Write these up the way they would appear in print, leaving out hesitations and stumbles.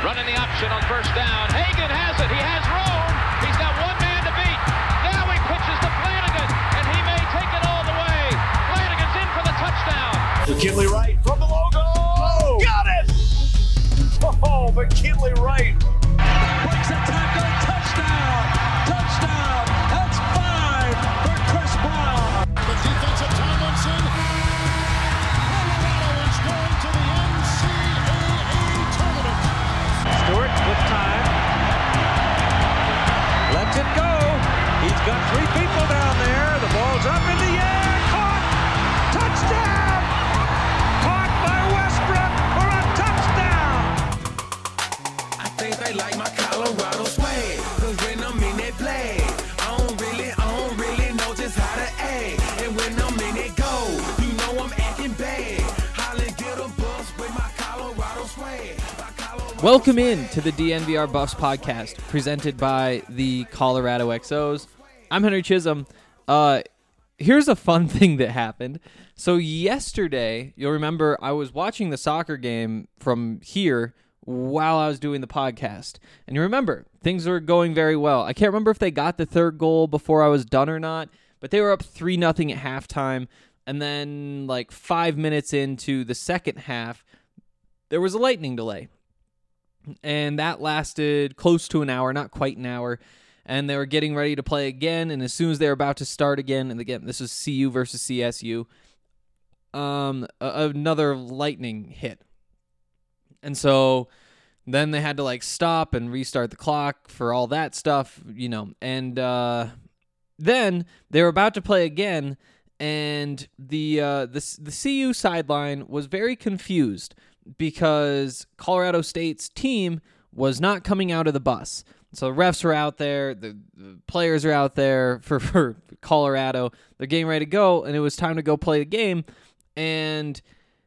Running the option on first down. Hagan has it. He has room. He's got one man to beat. Now he pitches to Flanagan, and he may take it all the way. Flanagan's in for the touchdown. McKinley Wright from the logo. Oh, got it! Oh, McKinley Wright. Breaks a tackle. Touchdown. Touchdown. That's 5 for Chris Brown. The defensive Tomlinson. Colorado is going to the NCAA tournament. Stewart with time. Lets it go. He's got 3 people down there. The ball's up in the air. Caught. Touchdown. Caught by Westbrook for a touchdown. I think they like my Colorado swag, 'cause when I'm in that play, I don't really know just how to act. And when I'm in it go, you know I'm acting bad. Holly get a bus with my Colorado swag. Welcome in to the DNVR Buffs podcast, presented by the Colorado XOs. I'm Henry Chisholm. Here's a fun thing that happened. So yesterday, you'll remember I was watching the soccer game from here while I was doing the podcast. And you remember, things were going very well. I can't remember if they got the third goal before I was done or not, but they were up 3-0 at halftime. And then like 5 minutes into the second half, there was a lightning delay. And that lasted close to an hour, not quite an hour. And they were getting ready to play again. And as soon as they were about to start again, and again, this was CU versus CSU, another lightning hit. And so then they had to like stop and restart the clock for all that stuff, you know. And then they were about to play again, and the CU sideline was very confused because Colorado State's team was not coming out of the bus. So the refs were out there, the players are out there for Colorado. They're getting ready to go, and it was time to go play the game. And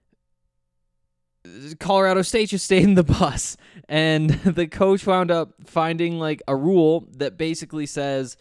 Colorado State just stayed in the bus. And the coach wound up finding like a rule that basically says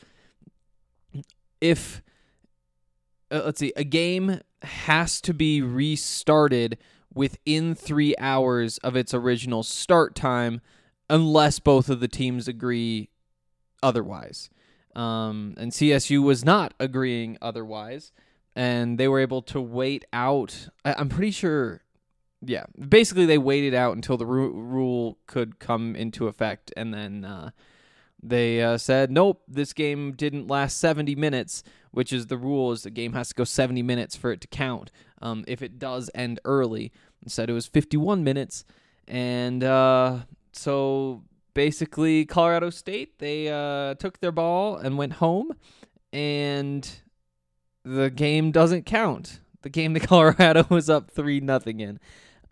if, a game has to be restarted within 3 hours of its original start time, unless both of the teams agree otherwise. And CSU was not agreeing otherwise, and they were able to wait out. I'm pretty sure, yeah, basically they waited out until the rule could come into effect, and then they said, nope, this game didn't last 70 minutes, which is the rule, is the game has to go 70 minutes for it to count. If it does end early. Instead, it was 51 minutes. And so basically Colorado State, they took their ball and went home. And the game doesn't count. The game that Colorado was up 3-0 in.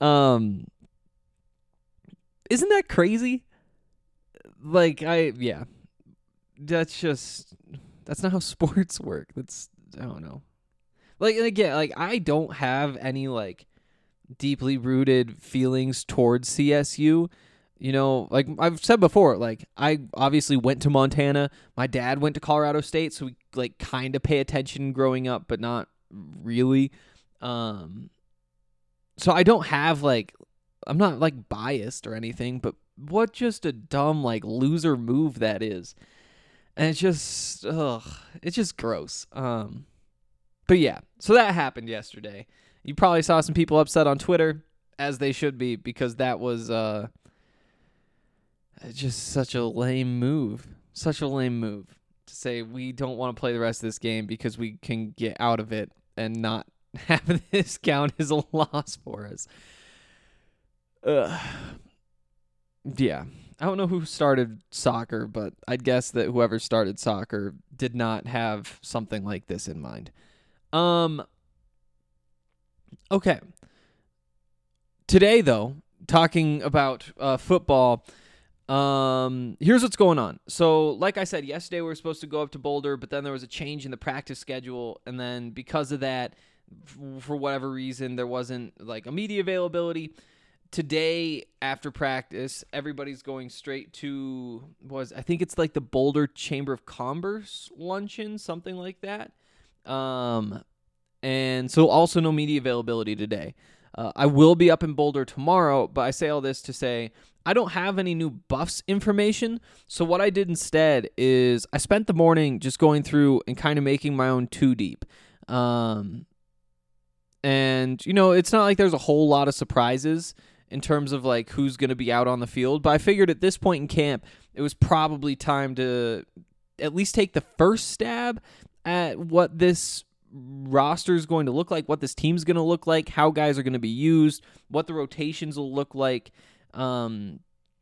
Isn't that crazy? Like, that's not how sports work. I don't know. Like, and again, like, I don't have any, like, deeply rooted feelings towards CSU. You know, like I've said before, like, I obviously went to Montana. My dad went to Colorado State, so we, like, kind of pay attention growing up, but not really. So I don't have, like, I'm not, like, biased or anything, but what just a dumb, like, loser move that is. And it's just, it's just gross. But yeah, so that happened yesterday. You probably saw some people upset on Twitter, as they should be, because that was just such a lame move. Such a lame move to say we don't want to play the rest of this game because we can get out of it and not have this count as a loss for us. Yeah. I don't know who started soccer, but I'd guess that whoever started soccer did not have something like this in mind. Okay. Today, though, talking about football, here's what's going on. So, like I said, yesterday we were supposed to go up to Boulder, but then there was a change in the practice schedule, and then because of that, for whatever reason, there wasn't, like, a media availability. Today, after practice, everybody's going straight to, I think it's like the Boulder Chamber of Commerce luncheon, something like that. And so also no media availability today. I will be up in Boulder tomorrow, but I say all this to say I don't have any new Buffs information, so what I did instead is I spent the morning just going through and kind of making my own two deep. And, it's not like there's a whole lot of surprises in terms of like who's going to be out on the field, but I figured at this point in camp, it was probably time to at least take the first stab at what this roster is going to look like, what this team's going to look like, how guys are going to be used, what the rotations will look like. And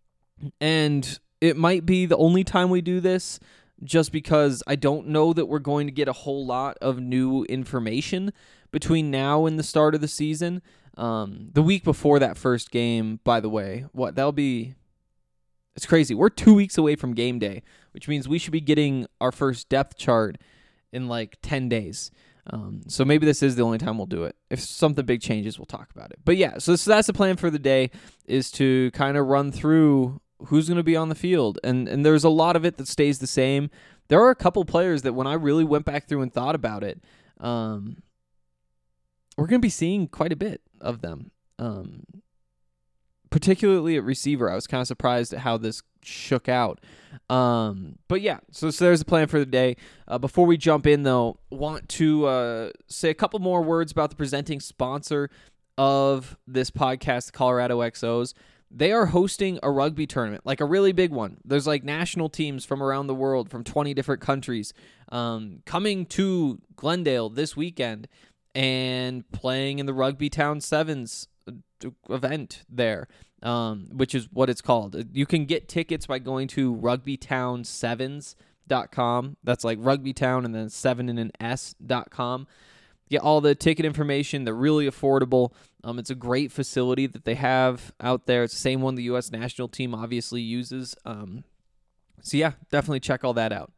it might be the only time we do this, just because I don't know that we're going to get a whole lot of new information between now and the start of the season. The week before that first game, by the way, it's crazy. We're 2 weeks away from game day, which means we should be getting our first depth chart in like 10 days. So maybe this is the only time we'll do it. If something big changes, we'll talk about it. But yeah, so that's the plan for the day, is to kind of run through who's going to be on the field. And there's a lot of it that stays the same. There are a couple players that when I really went back through and thought about it, we're going to be seeing quite a bit of them. Particularly at receiver. I was kind of surprised at how this shook out. But yeah, so there's the plan for the day. Before we jump in, though, want to say a couple more words about the presenting sponsor of this podcast, the Colorado XOs. They are hosting a rugby tournament, like a really big one. There's like national teams from around the world, from 20 different countries, coming to Glendale this weekend and playing in the Rugby Town Sevens event there, which is what it's called. You can get tickets by going to rugbytownsevens.com. That's like rugbytown and then 7 and an S.com. Get all the ticket information. They're really affordable. It's a great facility that they have out there. It's the same one the U.S. national team obviously uses. So yeah, definitely check all that out.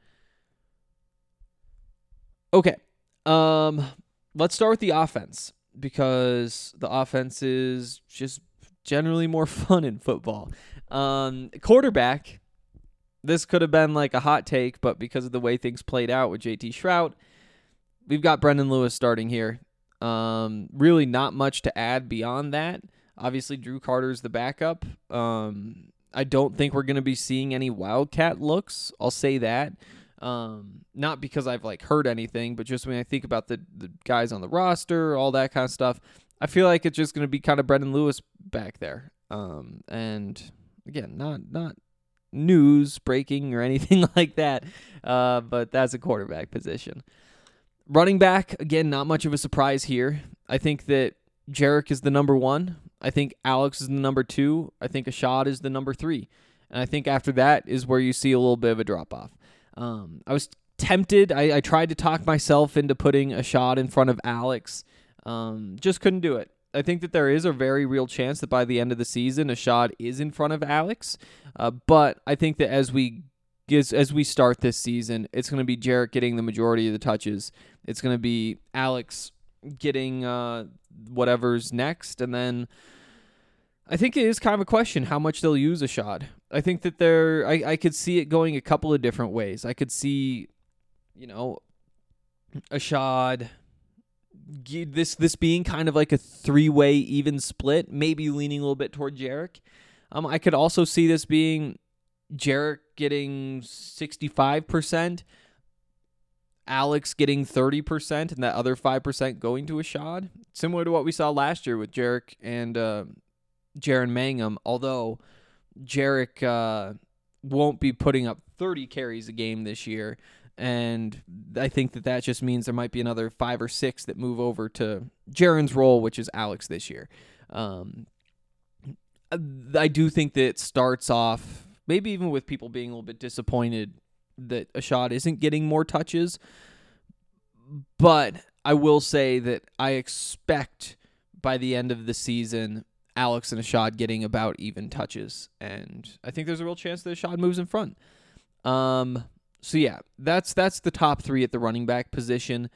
Okay. Let's start with the offense, because the offense is just generally more fun in football. Quarterback, this could have been like a hot take, but because of the way things played out with JT Shrout, we've got Brendan Lewis starting here. Really not much to add beyond that. Obviously, Drew Carter's the backup. I don't think we're going to be seeing any Wildcat looks. I'll say that. Not because I've like heard anything, but just when I think about the guys on the roster, all that kind of stuff, I feel like it's just going to be kind of Brendan Lewis back there. And again, not news breaking or anything like that. But that's a quarterback position. Running back, again, not much of a surprise here. I think that Jarek is the number 1. I think Alex is the number 2. I think Ashad is the number 3. And I think after that is where you see a little bit of a drop-off. I was tempted. I tried to talk myself into putting Ashad in front of Alex. Just couldn't do it. I think that there is a very real chance that by the end of the season, Ashad is in front of Alex. But I think that as we start this season, it's going to be Jarek getting the majority of the touches. It's going to be Alex getting whatever's next. And then I think it is kind of a question how much they'll use Ashad. I think that I could see it going a couple of different ways. I could see, Ashad, this being kind of like a 3-way even split, maybe leaning a little bit toward Jarek. I could also see this being Jarek getting 65%, Alex getting 30%, and that other 5% going to Ashad. Similar to what we saw last year with Jarek and Jaron Mangum, although Jarek won't be putting up 30 carries a game this year, and I think that just means there might be another 5 or 6 that move over to Jaron's role, which is Alex this year. I do think that it starts off, maybe even with people being a little bit disappointed that Ashad isn't getting more touches, but I will say that I expect by the end of the season, Alex and Ashad getting about even touches, and I think there's a real chance that Ashad moves in front. So yeah, that's the top 3 at the running back position.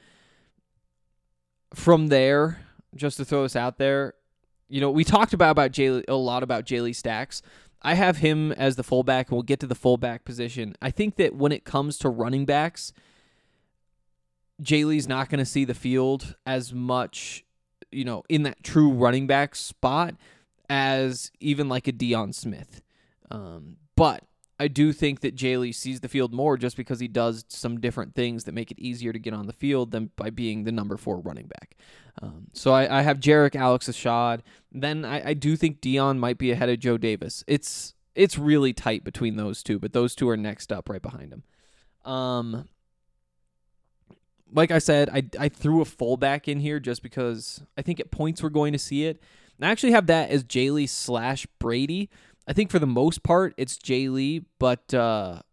From there, just to throw this out there, we talked about a lot about Jaylee Stacks. I have him as the fullback, and we'll get to the fullback position. I think that when it comes to running backs, Jaylee's not going to see the field as much, in that true running back spot as even like a Deion Smith. But I do think that Jay Lee sees the field more just because he does some different things that make it easier to get on the field than by being the number 4 running back. So I have Jarek, Alex Ashad. Then I do think Dion might be ahead of Joe Davis. It's really tight between those two, but those two are next up right behind him. Like I said, I threw a fullback in here just because I think at points we're going to see it. And I actually have that as Jay Lee / Brady. I think for the most part it's Jay Lee, but the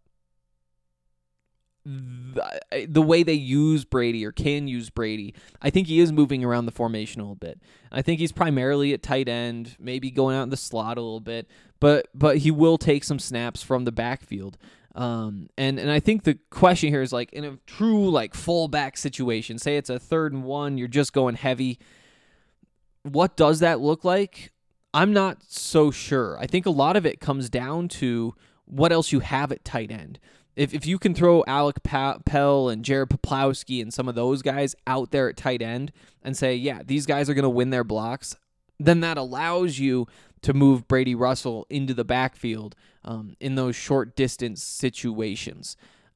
way they use Brady or can use Brady, I think he is moving around the formation a little bit. I think he's primarily at tight end, maybe going out in the slot a little bit, but he will take some snaps from the backfield. And I think the question here is like in a true like fullback situation, say it's a 3rd and 1, you're just going heavy. What does that look like? I'm not so sure. I think a lot of it comes down to what else you have at tight end. If you can throw Alec Pell and Jared Poplowski and some of those guys out there at tight end and say, yeah, these guys are going to win their blocks, then that allows you to move Brady Russell into the backfield in those short distance situations.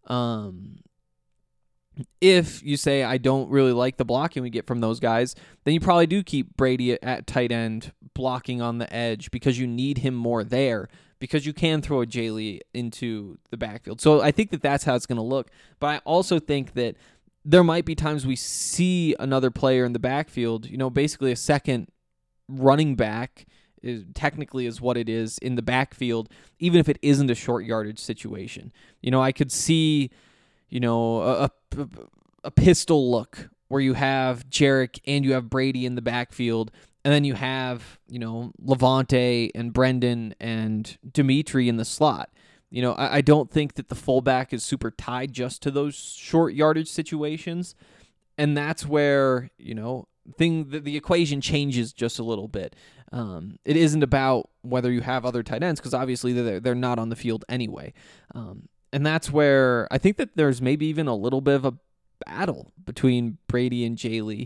If you say, I don't really like the blocking we get from those guys, then you probably do keep Brady at tight end blocking on the edge because you need him more there because you can throw a Jay Lee into the backfield. So I think that that's how it's going to look. But I also think that there might be times we see another player in the backfield, basically a second running back technically is what it is in the backfield, even if it isn't a short yardage situation. I could see, a pistol look where you have Jarek and you have Brady in the backfield, and then you have, Levante and Brendan and Dimitri in the slot. I don't think that the fullback is super tied just to those short yardage situations, and that's where, the equation changes just a little bit. It isn't about whether you have other tight ends because obviously they're not on the field anyway. And that's where I think that there's maybe even a little bit of a battle between Brady and Jay Lee.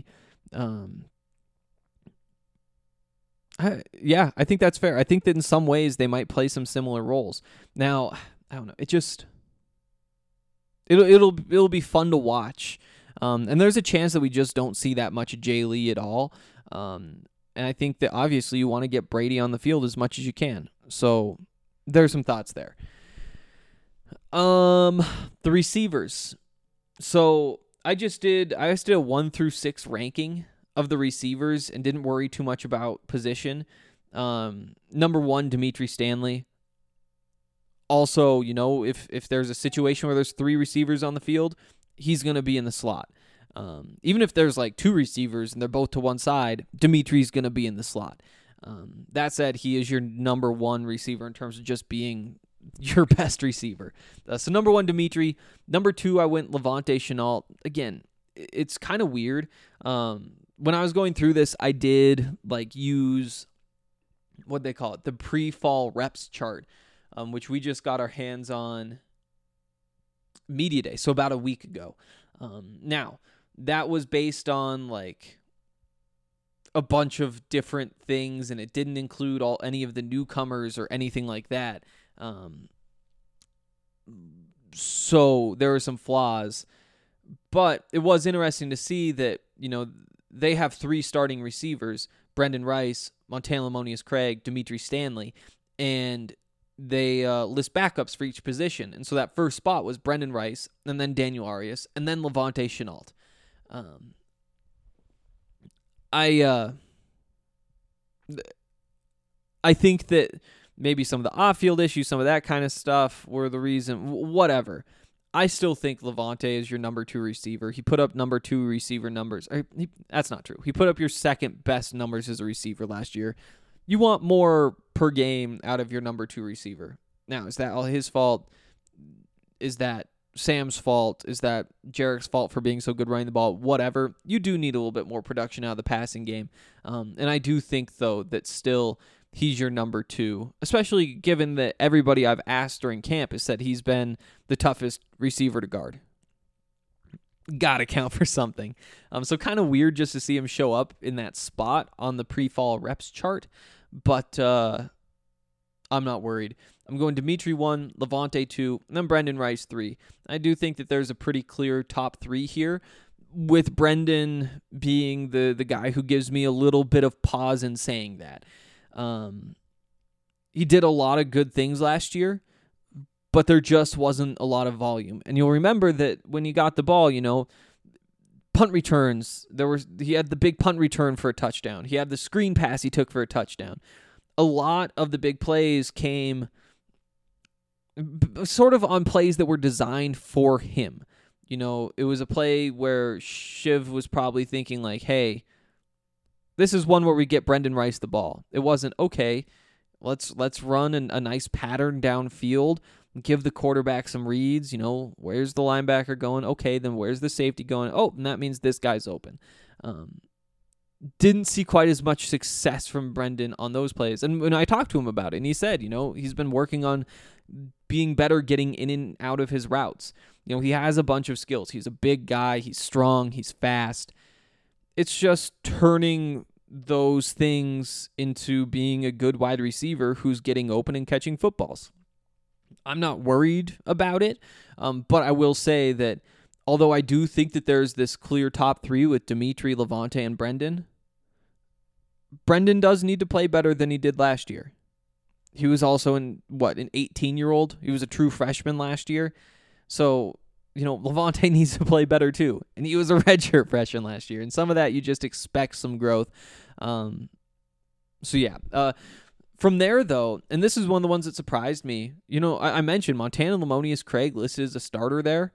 I think that's fair. I think that in some ways they might play some similar roles. Now, I don't know. It'll be fun to watch. And there's a chance that we just don't see that much of Jay Lee at all. And I think that obviously you want to get Brady on the field as much as you can. So there's some thoughts there. The receivers. So I did a 1 through 6 ranking of the receivers and didn't worry too much about position. Number 1, Dimitri Stanley. Also, if there's a situation where there's 3 receivers on the field, he's going to be in the slot. Even if there's like 2 receivers and they're both to one side, Dimitri's going to be in the slot. That said, he is your number 1 receiver in terms of just being your best receiver. So number 1, Dimitri. Number 2, I went Levante Shenault. Again, it's kind of weird. When I was going through this, I did use what they call it, the pre-fall reps chart, which we just got our hands on Media Day, so about a week ago. Now, that was based on a bunch of different things, and it didn't include any of the newcomers or anything like that. So there were some flaws, but it was interesting to see that, they have 3 starting receivers, Brendan Rice, Montana Lamonius Craig, Dimitri Stanley, and they list backups for each position. And so that first spot was Brendan Rice, and then Daniel Arias, and then Levante Shenault. I think that maybe some of the off-field issues, some of that kind of stuff were the reason, whatever. I still think Levante is your number 2 receiver. He put up number 2 receiver numbers. That's not true. He put up your second best numbers as a receiver last year. You want more per game out of your number 2 receiver. Now, is that all his fault? Is that Sam's fault? Is that Jarek's fault for being so good running the ball? Whatever. You do need a little bit more production out of the passing game. And I do think, though, that still he's your number 2, especially given that everybody I've asked during camp has said he's been the toughest receiver to guard. Gotta count for something. So kind of weird just to see him show up in that spot on the pre-fall reps chart. But I'm not worried. I'm going Dimitri 1, Levante 2, and then Brendan Rice 3. I do think that there's a pretty clear top 3 here, with Brendan being the guy who gives me a little bit of pause in saying that. He did a lot of good things last year, but there just wasn't a lot of volume. And you'll remember that when he got the ball, punt returns, he had the big punt return for a touchdown. He had the screen pass he took for a touchdown. A lot of the big plays came sort of on plays that were designed for him. It was a play where Shiv was probably thinking like, hey, this is one where we get Brendan Rice the ball. It wasn't, okay, let's run a nice pattern downfield, give the quarterback some reads. Where's the linebacker going? Okay, then where's the safety going? Oh, and that means this guy's open. Didn't see quite as much success from Brendan on those plays. And when I talked to him about it, and he said, he's been working on being better getting in and out of his routes. He has a bunch of skills. He's a big guy. He's strong. He's fast. It's just turning those things into being a good wide receiver who's getting open and catching footballs. I'm not worried about it, but I will say that although I do think that there's this clear top 3 with Dimitri, Levante, and Brendan does need to play better than he did last year. He was also an 18-year-old. He was a true freshman last year. So, Levante needs to play better too. And he was a redshirt freshman last year. And some of that, you just expect some growth. From there, though, and this is one of the ones that surprised me. I mentioned Montana Lamonius Craig listed as a starter there.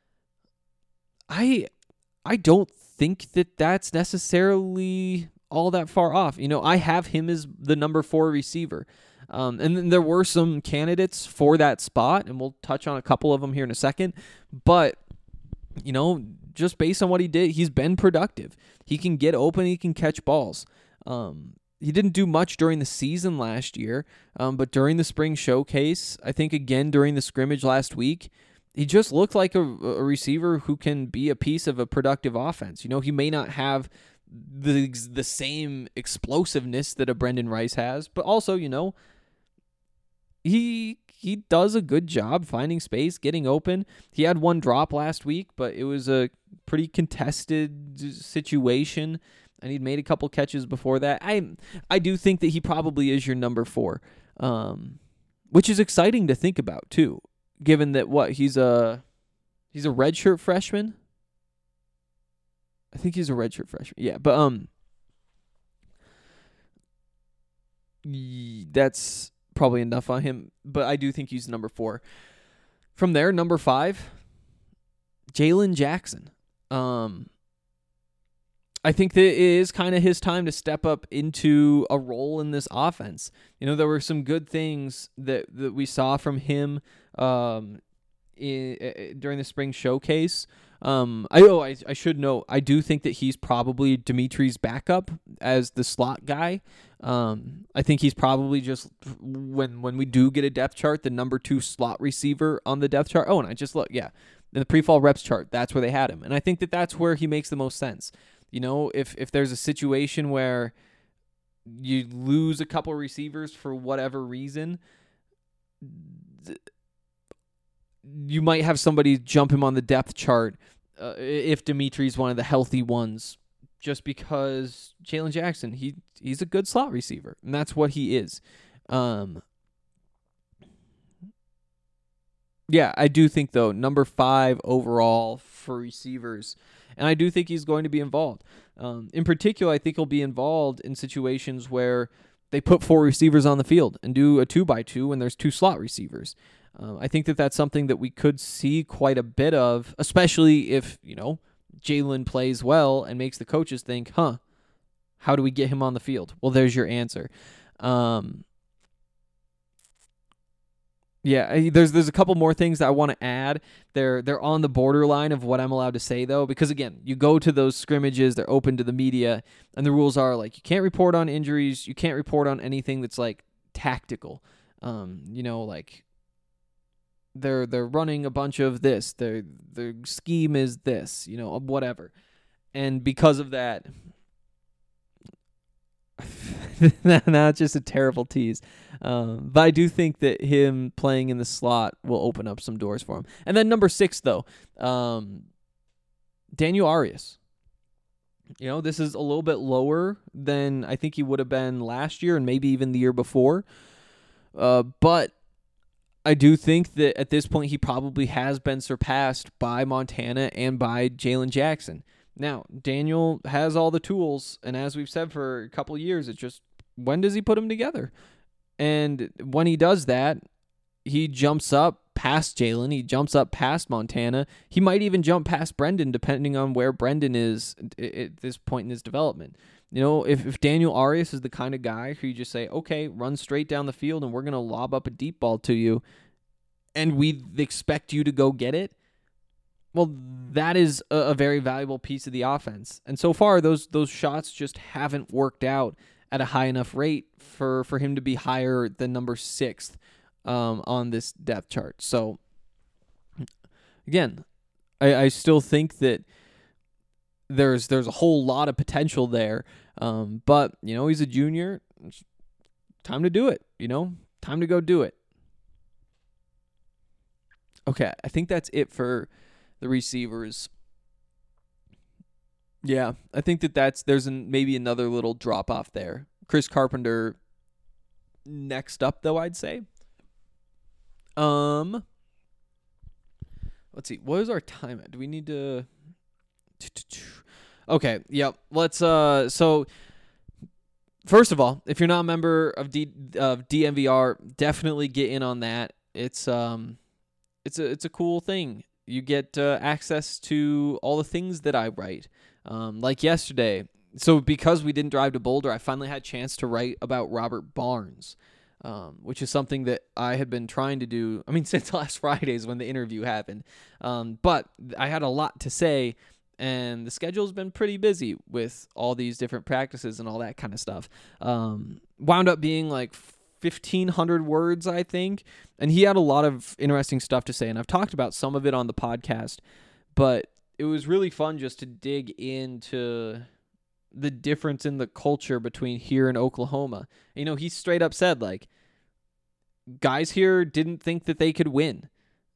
I don't think that that's necessarily all that far off. I have him as the number 4 receiver. And then there were some candidates for that spot, and we'll touch on a couple of them here in a second. But, just based on what he did, he's been productive. He can get open, he can catch balls. He didn't do much during the season last year, but during the spring showcase, I think again during the scrimmage last week, he just looked like a receiver who can be a piece of a productive offense. He may not have the same explosiveness that a Brendan Rice has, but also, he does a good job finding space, getting open. He had one drop last week, but it was a pretty contested situation, and he'd made a couple catches before that. I do think that he probably is your number 4, which is exciting to think about too, given that he's a redshirt freshman. I think he's a redshirt freshman. Yeah, but that's probably enough on him. But I do think he's number 4. From there, number 5, Jalen Jackson. I think that it is kind of his time to step up into a role in this offense. There were some good things that we saw from him during the spring showcase. I should note, I do think that he's probably Dimitri's backup as the slot guy. I think he's probably just, when we do get a depth chart, the number 2 slot receiver on the depth chart. Oh, and I just look, in the pre-fall reps chart, that's where they had him. And I think that that's where he makes the most sense. If there's a situation where you lose a couple receivers for whatever reason, you might have somebody jump him on the depth chart if Dimitri's one of the healthy ones, just because Jalen Jackson, he's a good slot receiver, and that's what he is. I do think, though, number 5 overall for receivers, and I do think he's going to be involved. In particular, I think he'll be involved in situations where they put 4 receivers on the field and do a 2x2 when there's 2 slot receivers. I think that that's something that we could see quite a bit of, especially if, Jalen plays well and makes the coaches think, how do we get him on the field? Well, there's your answer. There's a couple more things that I want to add. They're on the borderline of what I'm allowed to say, though, because, again, you go to those scrimmages, they're open to the media, and the rules are, you can't report on injuries, you can't report on anything that's, tactical. They're running a bunch of this. Their scheme is this, whatever. And because of that, Not just a terrible tease. But I do think that him playing in the slot will open up some doors for him. And then number 6, though, Daniel Arias. This is a little bit lower than I think he would have been last year and maybe even the year before. But I do think that at this point he probably has been surpassed by Montana and by Jalen Jackson. Now, Daniel has all the tools, and as we've said for a couple of years, it's just when does he put them together? And when he does that, he jumps up past Jalen. He jumps up past Montana. He might even jump past Brendan, depending on where Brendan is at this point in his development. If Daniel Arias is the kind of guy who you just say, okay, run straight down the field and we're going to lob up a deep ball to you, and we expect you to go get it, well, that is a very valuable piece of the offense. And so far, those shots just haven't worked out at a high enough rate for him to be higher than number 6th on this depth chart. So, again, I still think that there's a whole lot of potential there. But, he's a junior. It's time to do it, Time to go do it. Okay, I think that's it for the receivers. Yeah, I think there's maybe another little drop off there. Chris Carpenter next up, though, I'd say. Let's see. What is our time at? Do we need to? Okay. Yep. Let's. So, first of all, if you're not a member of DNVR, definitely get in on that. It's a cool thing. You get access to all the things that I write. Like yesterday. So because we didn't drive to Boulder, I finally had a chance to write about Robert Barnes, which is something that I had been trying to do, since last Friday's when the interview happened. But I had a lot to say, and the schedule's been pretty busy with all these different practices and all that kind of stuff. Wound up being like 1,500 words, I think. And he had a lot of interesting stuff to say, and I've talked about some of it on the podcast, but it was really fun just to dig into the difference in the culture between here and Oklahoma. He straight up said, guys here didn't think that they could win.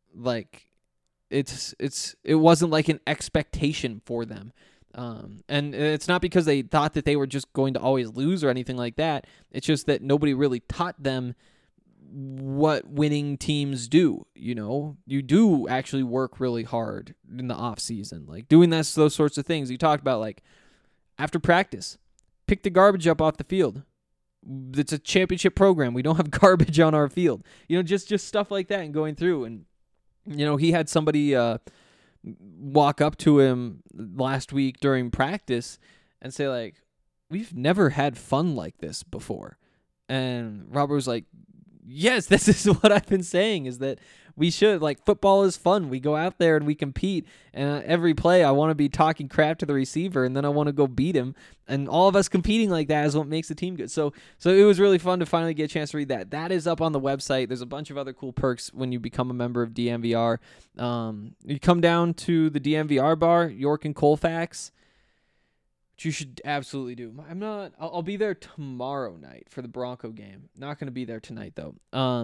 It wasn't like an expectation for them. And it's not because they thought that they were just going to always lose or anything like that. It's just that nobody really taught them what winning teams do. You do actually work really hard in the off season, doing those sorts of things. You talked about after practice, pick the garbage up off the field. It's a championship program. We don't have garbage on our field. Just stuff like that and going through. And, he had somebody walk up to him last week during practice and say, we've never had fun like this before. And Robert was like, yes, this is what I've been saying, is that we should, football is fun. We go out there and we compete, and every play I want to be talking crap to the receiver, and then I want to go beat him, and all of us competing like that is what makes the team good. So it was really fun to finally get a chance to read that. That is up on the website. There's a bunch of other cool perks when you become a member of DNVR. You come down to the DNVR bar, York and Colfax, which you should absolutely do. I'll be there tomorrow night for the Bronco game. Not going to be there tonight, though.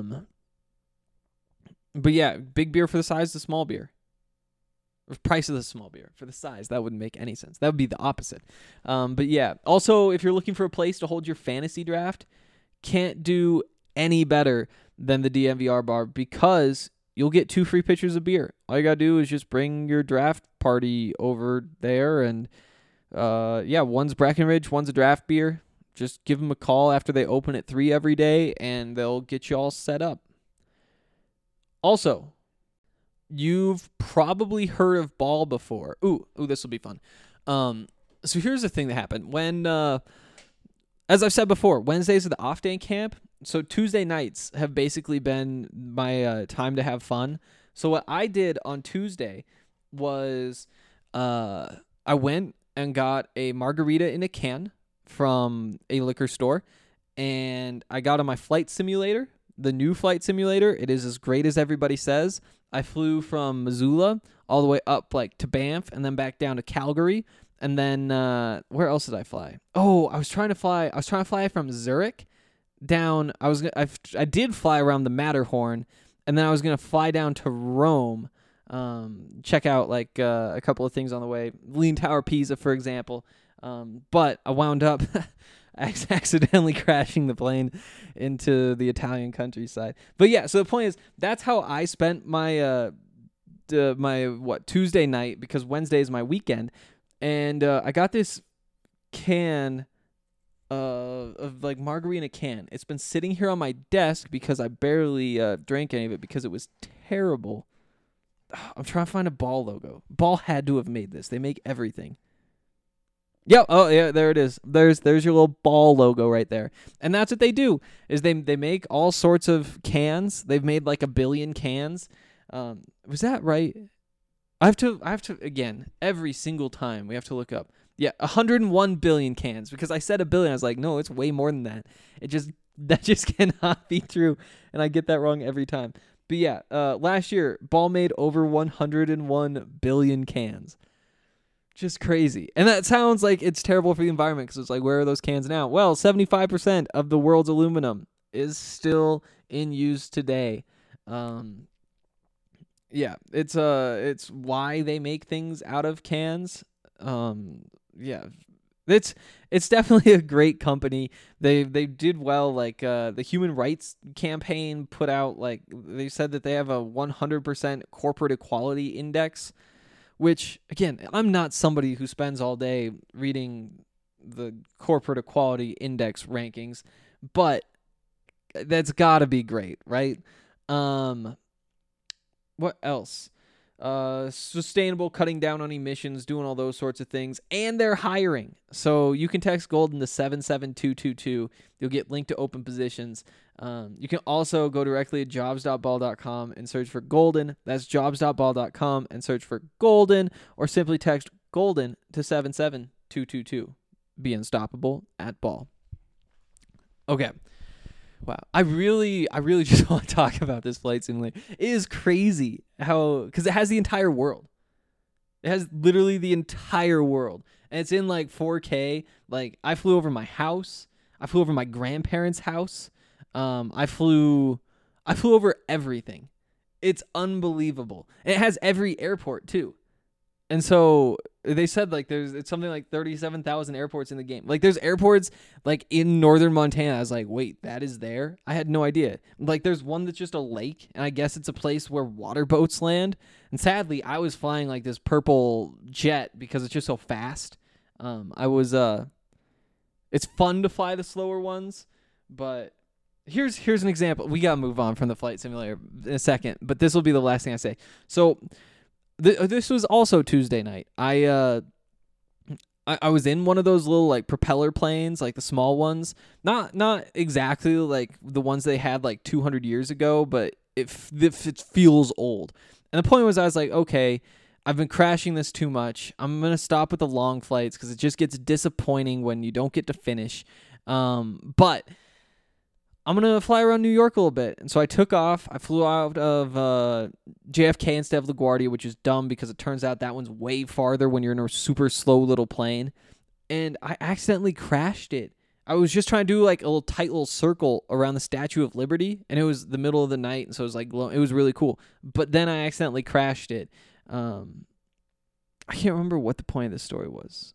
But yeah, big beer for the size of the small beer. Or price of the small beer for the size. That wouldn't make any sense. That would be the opposite. But yeah, also, if you're looking for a place to hold your fantasy draft, can't do any better than the DNVR bar, because you'll get 2 free pitchers of beer. All you got to do is just bring your draft party over there, and one's Breckenridge, one's a draft beer. Just give them a call after they open at 3 every day, and they'll get you all set up. Also, you've probably heard of ball before. Ooh, this will be fun. So here's the thing that happened. When, as I've said before, Wednesdays are the off day in camp. So Tuesday nights have basically been my time to have fun. So what I did on Tuesday was I went and got a margarita in a can from a liquor store, and I got on my flight simulator, the new flight simulator. It is as great as everybody says. I flew from Missoula all the way up to Banff and then back down to Calgary. And then where else did I fly? Oh, I was trying to fly from Zurich down. I did fly around the Matterhorn, and then I was gonna fly down to Rome, check out like a couple of things on the way, Leaning Tower of Pisa, for example. But I wound up accidentally crashing the plane into the Italian countryside. But yeah, so the point is, that's how I spent my Tuesday night, because Wednesday is my weekend, and I got this can of like margarita can. It's been sitting here on my desk because I barely drank any of it because it was terrible. I'm trying to find a Ball logo. Ball had to have made this. They make everything. Yep. Oh yeah, there it is. There's your little Ball logo right there. And that's what they do, is they make all sorts of cans. They've made like 1 billion cans. Was that right? I have to again, every single time we have to look up. Yeah, 101 billion cans, because I said 1 billion. I was like, no, it's way more than that. That just cannot be true, and I get that wrong every time. But yeah, last year Ball made over 101 billion cans. Just crazy. And that sounds like it's terrible for the environment, because it's like, where are those cans now? Well, 75% of the world's aluminum is still in use today. Yeah, it's why they make things out of cans. Yeah, it's definitely a great company. They did well. Like the Human Rights Campaign put out, like, they said that they have a 100% corporate equality index, which, again, I'm not somebody who spends all day reading the corporate equality index rankings, but that's got to be great, right? What else? Sustainable, cutting down on emissions, doing all those sorts of things, and they're hiring. So you can text Golden to 77222. You'll get linked to open positions. You can also go directly to jobs.ball.com and search for Golden. That's jobs.ball.com and search for Golden, or simply text Golden to 77222. Be unstoppable at Ball. Okay. Wow. I really just want to talk about this flight simulator. It is crazy because it has the entire world. It has literally the entire world. And it's in like 4K. Like, I flew over my house. I flew over my grandparents' house. I flew over everything. It's unbelievable. And it has every airport too. And so they said, like, it's something like 37,000 airports in the game. Like, there's airports like in northern Montana. I was like, wait, that is there? I had no idea. Like, there's one that's just a lake, and I guess it's a place where water boats land. And sadly, I was flying like this purple jet because it's just so fast. It's fun to fly the slower ones, but here's an example. We gotta move on from the flight simulator in a second, but this will be the last thing I say. So this was also Tuesday night. I was in one of those little like propeller planes, like the small ones. Not exactly like the ones they had like 200 years ago, but it feels old. And the point was, I was like, okay, I've been crashing this too much. I'm going to stop with the long flights because it just gets disappointing when you don't get to finish. But I'm going to fly around New York a little bit. And so I took off. I flew out of JFK instead of LaGuardia, which is dumb because it turns out that one's way farther when you're in a super slow little plane. And I accidentally crashed it. I was just trying to do like a little tight little circle around the Statue of Liberty, and it was the middle of the night, and so it was like it was really cool. But then I accidentally crashed it. I can't remember what the point of this story was.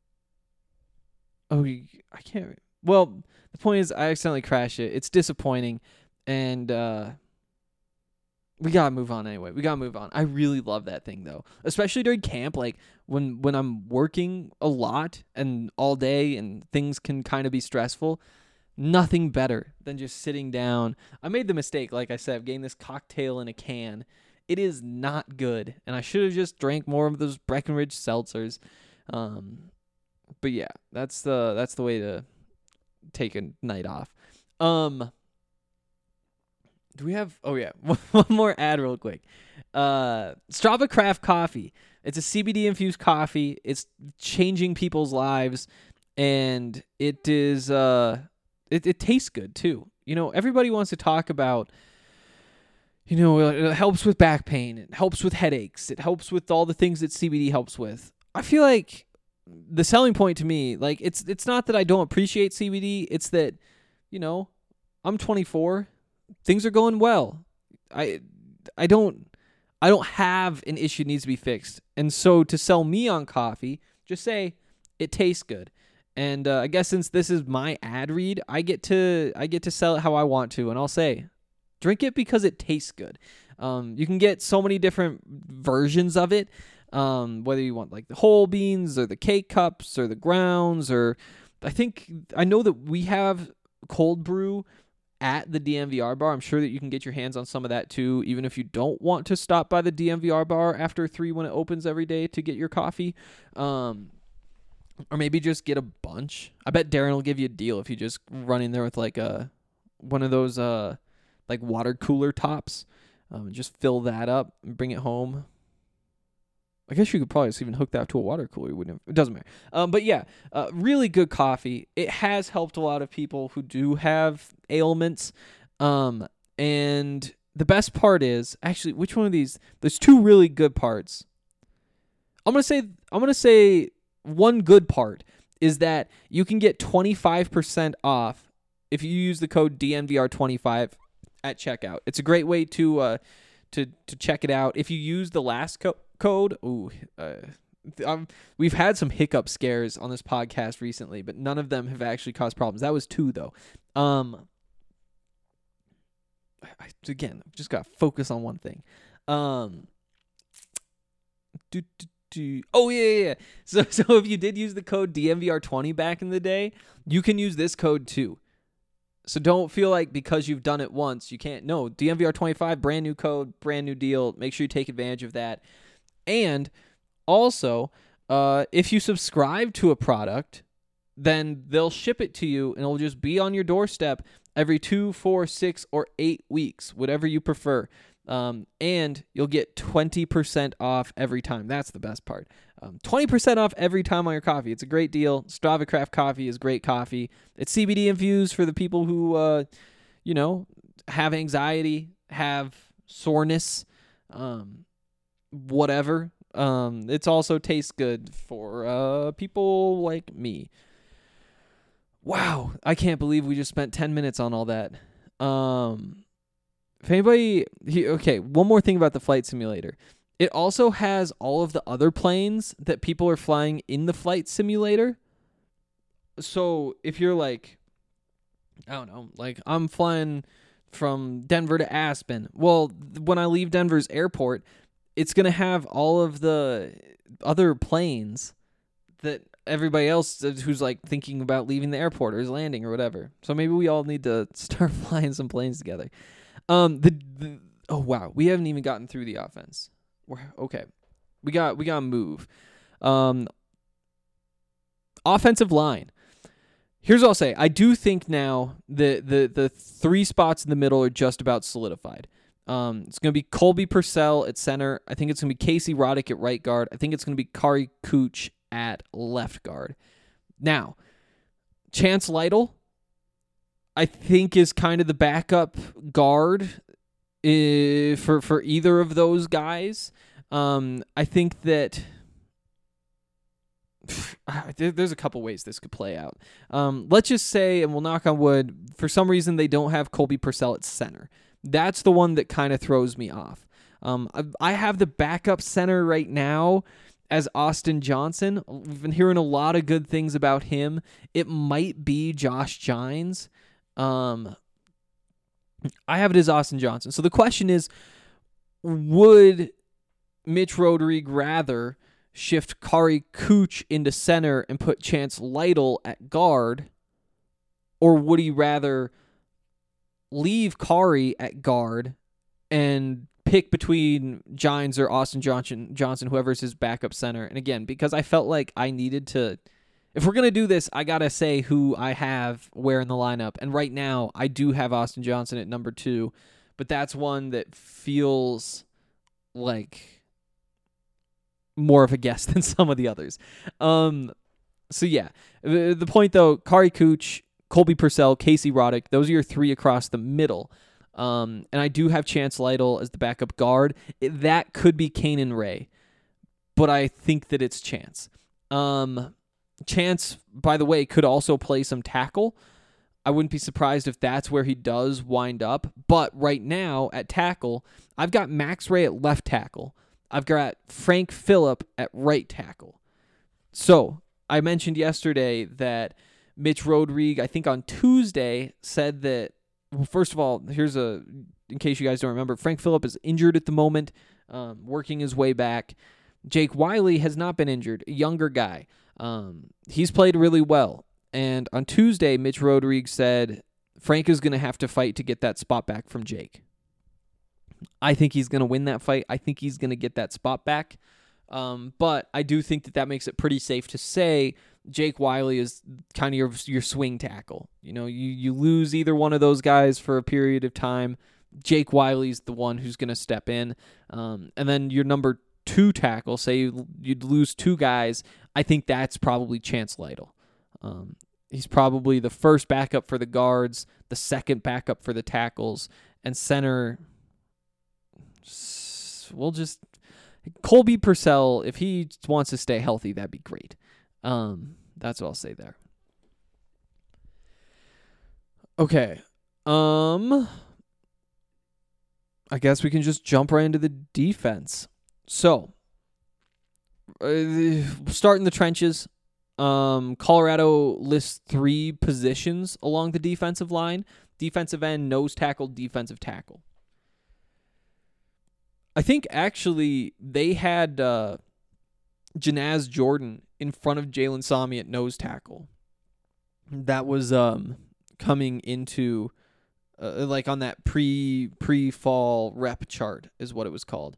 Oh, I can't. Well, the point is, I accidentally crashed it. It's disappointing, and we gotta move on anyway. We gotta move on. I really love that thing though, especially during camp. Like when I'm working a lot and all day, and things can kind of be stressful. Nothing better than just sitting down. I made the mistake, like I said, of getting this cocktail in a can. It is not good, and I should have just drank more of those Breckenridge seltzers. But yeah, that's the way to take a night off. Do we have... Oh, yeah. One more ad real quick. Strava Craft Coffee. It's a CBD-infused coffee. It's changing people's lives, and it is... It tastes good, too. You know, everybody wants to talk about... You know, it helps with back pain. It helps with headaches. It helps with all the things that CBD helps with. I feel like the selling point to me, like it's not that I don't appreciate CBD, it's that, I'm 24, things are going well. I don't have an issue that needs to be fixed. And so to sell me on coffee, just say it tastes good. And I guess since this is my ad read, I get to sell it how I want to, and I'll say, drink it because it tastes good. You can get so many different versions of it, whether you want like the whole beans or the K-Cups or the grounds, or I know that we have cold brew at the DMVR bar. I'm sure that you can get your hands on some of that too, even if you don't want to stop by the DMVR bar after 3 when it opens every day to get your coffee. Or maybe just get a bunch. I bet Darren will give you a deal if you just run in there with like one of those like water cooler tops. Just fill that up and bring it home. I guess you could probably just even hook that to a water cooler. It doesn't matter. But yeah, really good coffee. It has helped a lot of people who do have ailments. And the best part is, actually, which one of these? There's 2 really good parts. I'm gonna say one good part is that you can get 25% off if you use the code DNVR25 at checkout. It's a great way to check it out. If you use the last code, we've had some hiccup scares on this podcast recently, but none of them have actually caused problems. That was 2 though. Again, just got to focus on one thing. Oh yeah. So if you did use the code DNVR20 back in the day, you can use this code too. So don't feel like because you've done it once, you can't. No, DNVR25, brand new code, brand new deal. Make sure you take advantage of that. And also, if you subscribe to a product, then they'll ship it to you and it'll just be on your doorstep every 2, 4, 6, or 8 weeks, whatever you prefer. And you'll get 20% off every time. That's the best part. 20% off every time on your coffee. It's a great deal. Strava Craft coffee is great coffee. It's CBD infused for the people who, have anxiety, have soreness, whatever. It's also tastes good for people like me. Wow, I can't believe we just spent 10 minutes on all that. If anybody, one more thing about the flight simulator. It also has all of the other planes that people are flying in the flight simulator. So if you're like, I don't know, like I'm flying from Denver to Aspen. Well, when I leave Denver's airport, it's going to have all of the other planes that everybody else who's like thinking about leaving the airport or is landing or whatever. So maybe we all need to start flying some planes together. Oh wow, we haven't even gotten through the offense. Okay, we got to move. Offensive line. Here's what I'll say. I do think now the 3 spots in the middle are just about solidified. It's going to be Colby Purcell at center. I think it's going to be Casey Roddick at right guard. I think it's going to be Kari Cooch at left guard. Now, Chance Lytle, I think, is kind of the backup guard for either of those guys. I think that there's a couple ways this could play out. Let's just say, and we'll knock on wood, for some reason they don't have Colby Purcell at center. That's the one that kind of throws me off. I have the backup center right now as Austin Johnson. We've been hearing a lot of good things about him. It might be Josh Gines. I have it as Austin Johnson. So the question is, would Mitch Rodrigue rather shift Kari Cooch into center and put Chance Lytle at guard, or would he rather leave Kari at guard and pick between Gines or Austin Johnson, whoever's his backup center? And again, because I felt like I needed to, if we're going to do this, I got to say who I have where in the lineup. And right now, I do have Austin Johnson at number 2, but that's one that feels like more of a guess than some of the others. So yeah, the point though, Kari Cooch, Colby Purcell, Casey Roddick, those are your 3 across the middle. And I do have Chance Lytle as the backup guard. That could be Kanan Ray, but I think that it's Chance. Chance, by the way, could also play some tackle. I wouldn't be surprised if that's where he does wind up. But right now at tackle, I've got Max Ray at left tackle. I've got Frank Phillip at right tackle. So I mentioned yesterday that Mitch Rodrigue, I think on Tuesday, said that, well, first of all, in case you guys don't remember, Frank Phillip is injured at the moment, working his way back. Jake Wiley has not been injured, a younger guy. He's played really well. And on Tuesday, Mitch Rodrigue said Frank is going to have to fight to get that spot back from Jake. I think he's going to win that fight. I think he's going to get that spot back. But I do think that makes it pretty safe to say Jake Wiley is kind of your swing tackle. You know, you lose either one of those guys for a period of time. Jake Wiley's the one who's going to step in. And then your number 2 tackle, say you'd lose 2 guys, I think that's probably Chance Lytle. He's probably the first backup for the guards, the second backup for the tackles, and center. Colby Purcell, if he wants to stay healthy, that'd be great. That's what I'll say there. Okay. I guess we can just jump right into the defense. So, start in the trenches. Colorado lists 3 positions along the defensive line: defensive end, nose tackle, defensive tackle. I think actually they had Janaz Jordan in front of Jalen Sami at nose tackle. That was coming into like on that pre-fall rep chart is what it was called.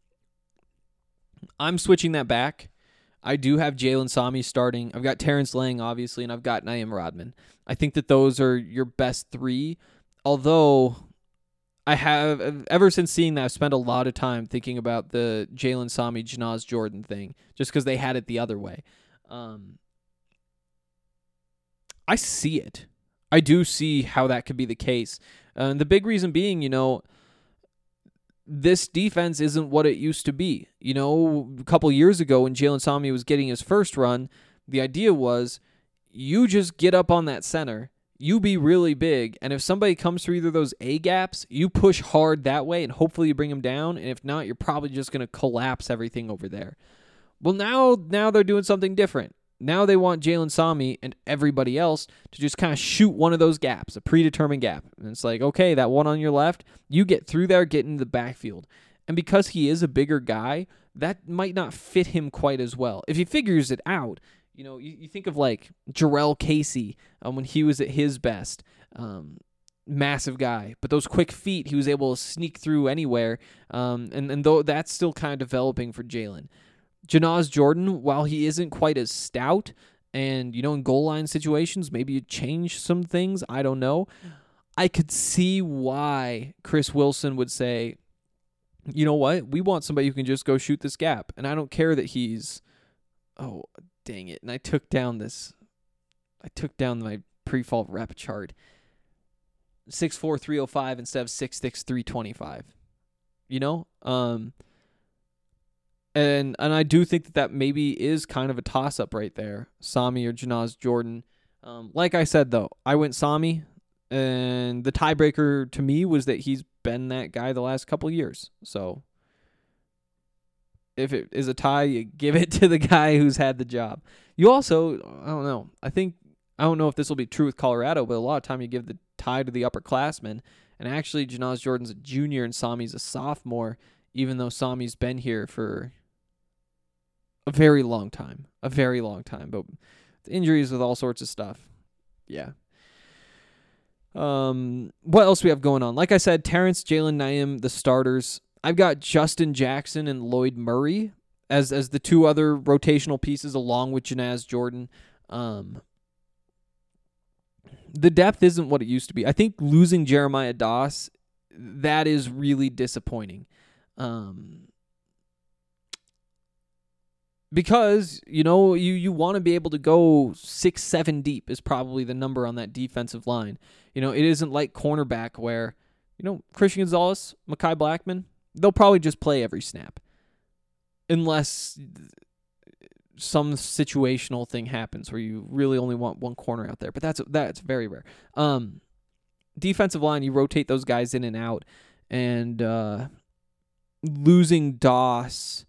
I'm switching that back. I do have Jalen Sami starting. I've got Terrence Lang, obviously, and I've got Naeem Rodman. I think that those are your best 3, although I have, ever since seeing that, I've spent a lot of time thinking about the Jalen Sami, Janaz Jordan thing, just because they had it the other way. I see it. I do see how that could be the case. And the big reason being, this defense isn't what it used to be. A couple years ago when Jalen Sami was getting his first run, the idea was you just get up on that center, you be really big, and if somebody comes through either of those A gaps, you push hard that way and hopefully you bring them down, and if not, you're probably just going to collapse everything over there. Well, now they're doing something different. Now they want Jalen Sami and everybody else to just kind of shoot one of those gaps, a predetermined gap. And it's like, okay, that one on your left, you get through there, get into the backfield. And because he is a bigger guy, that might not fit him quite as well. If he figures it out, you think of like Jarrell Casey when he was at his best. Massive guy, but those quick feet, he was able to sneak through anywhere. And though that's still kind of developing for Jalen. Janaz Jordan, while he isn't quite as stout, and, in goal line situations, maybe you change some things, I don't know. I could see why Chris Wilson would say, you know what, we want somebody who can just go shoot this gap. And I don't care that he's, oh, dang it. And I took down my pre-fall rep chart. 6'4", 305 instead of 6'6", 325. And I do think that maybe is kind of a toss-up right there, Sami or Janaz Jordan. Like I said, though, I went Sami, and the tiebreaker to me was that he's been that guy the last couple years. So if it is a tie, you give it to the guy who's had the job. You also, I don't know, I don't know if this will be true with Colorado, but a lot of time you give the tie to the upperclassmen. And actually, Janaz Jordan's a junior and Sami's a sophomore, even though Sami's been here for a very long time. But the injuries with all sorts of stuff. Yeah. What else we have going on? Like I said, Terrence, Jalen, Naeem, the starters. I've got Justin Jackson and Lloyd Murray as the 2 other rotational pieces along with Janaz Jordan. The depth isn't what it used to be. I think losing Jeremiah Doss, that is really disappointing. Because, you want to be able to go 6-7 deep is probably the number on that defensive line. It isn't like cornerback where, Christian Gonzalez, Mekhi Blackman, they'll probably just play every snap. Unless some situational thing happens where you really only want one corner out there, but that's very rare. Defensive line, you rotate those guys in and out, and losing Doss,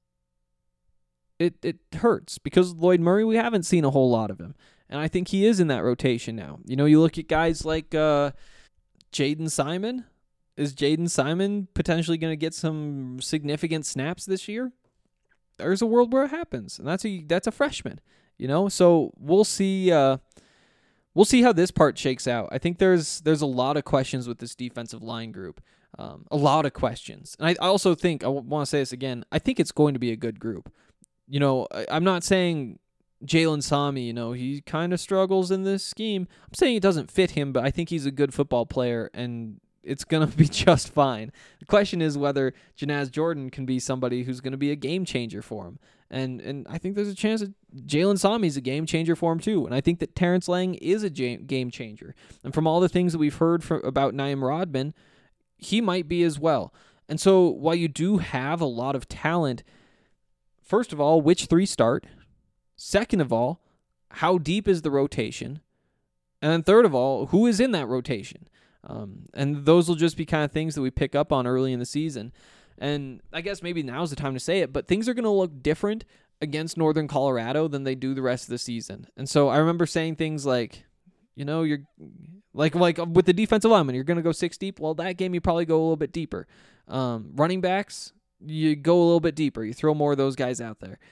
it hurts because Lloyd Murray, we haven't seen a whole lot of him, and I think he is in that rotation now. You look at guys like Jaden Simon. Is Jaden Simon potentially going to get some significant snaps this year? There's a world where it happens, and that's a freshman, So we'll see. We'll see how this part shakes out. I think there's a lot of questions with this defensive line group, a lot of questions, and I also think I want to say this again. I think it's going to be a good group. I'm not saying Jalen Sami. He kind of struggles in this scheme. I'm saying it doesn't fit him, but I think he's a good football player, and it's going to be just fine. The question is whether Janaz Jordan can be somebody who's going to be a game changer for him. And I think there's a chance that Jalen Sami's a game changer for him too. And I think that Terrence Lang is a game changer. And from all the things that we've heard about Naim Rodman, he might be as well. And so while you do have a lot of talent, first of all, which three start? Second of all, how deep is the rotation? And then third of all, who is in that rotation? And those will just be kind of things that we pick up on early in the season. And I guess maybe now's the time to say it, but things are going to look different against Northern Colorado than they do the rest of the season. And so I remember saying things like, you're like with the defensive lineman, you're going to go 6 deep. Well, that game you probably go a little bit deeper. Running backs, you go a little bit deeper. You throw more of those guys out there.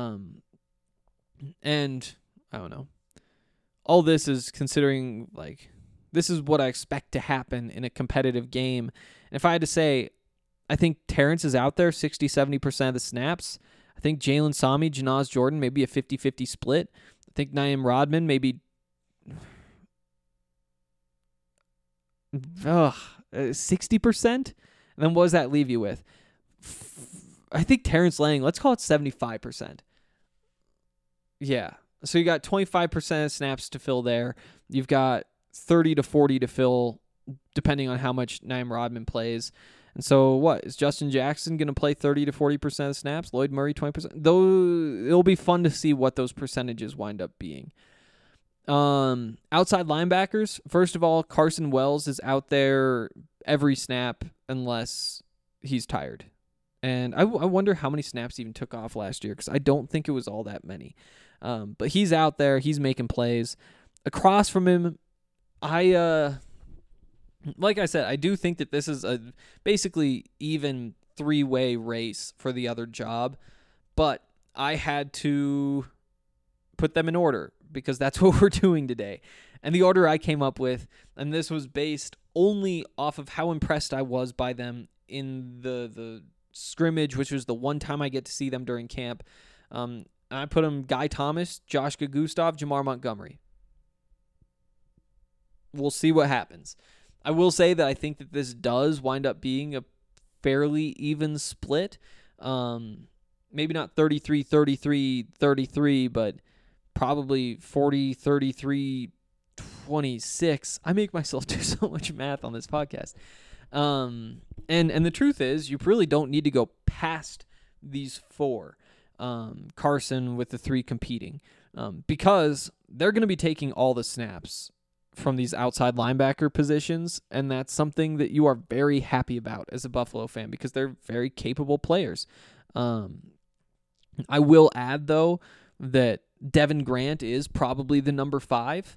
And I don't know. All this is considering this is what I expect to happen in a competitive game. And if I had to say, I think Terrence is out there 60-70% of the snaps. I think Jalen Sami, Janaz Jordan, maybe a 50-50 split. I think Naim Rodman, maybe 60%. And then what does that leave you with? I think Terrence Lang, let's call it 75%. Yeah. So you got 25% of snaps to fill there. You've got 30 to 40 to fill, depending on how much Naim Rodman plays. And so what? Is Justin Jackson going to play 30 to 40% of snaps? Lloyd Murray 20%? Though it'll be fun to see what those percentages wind up being. Outside linebackers, first of all, Carson Wells is out there every snap unless he's tired. And I wonder how many snaps he even took off last year, because I don't think it was all that many. But he's out there. He's making plays. Across from him, like I said, I do think that this is a basically even 3-way race for the other job, but I had to put them in order because that's what we're doing today. And the order I came up with, and this was based only off of how impressed I was by them in the scrimmage, which was the one time I get to see them during camp. I put them Guy Thomas, Josh Gustav, Jamar Montgomery. We'll see what happens. I will say that I think that this does wind up being a fairly even split. Maybe not 33-33-33, but probably 40-33-26. I make myself do so much math on this podcast. And the truth is, you really don't need to go past these 4. Carson with the 3 competing, because they're going to be taking all the snaps from these outside linebacker positions, and that's something that you are very happy about as a Buffalo fan because they're very capable players. I will add, though, that Devin Grant is probably the number 5.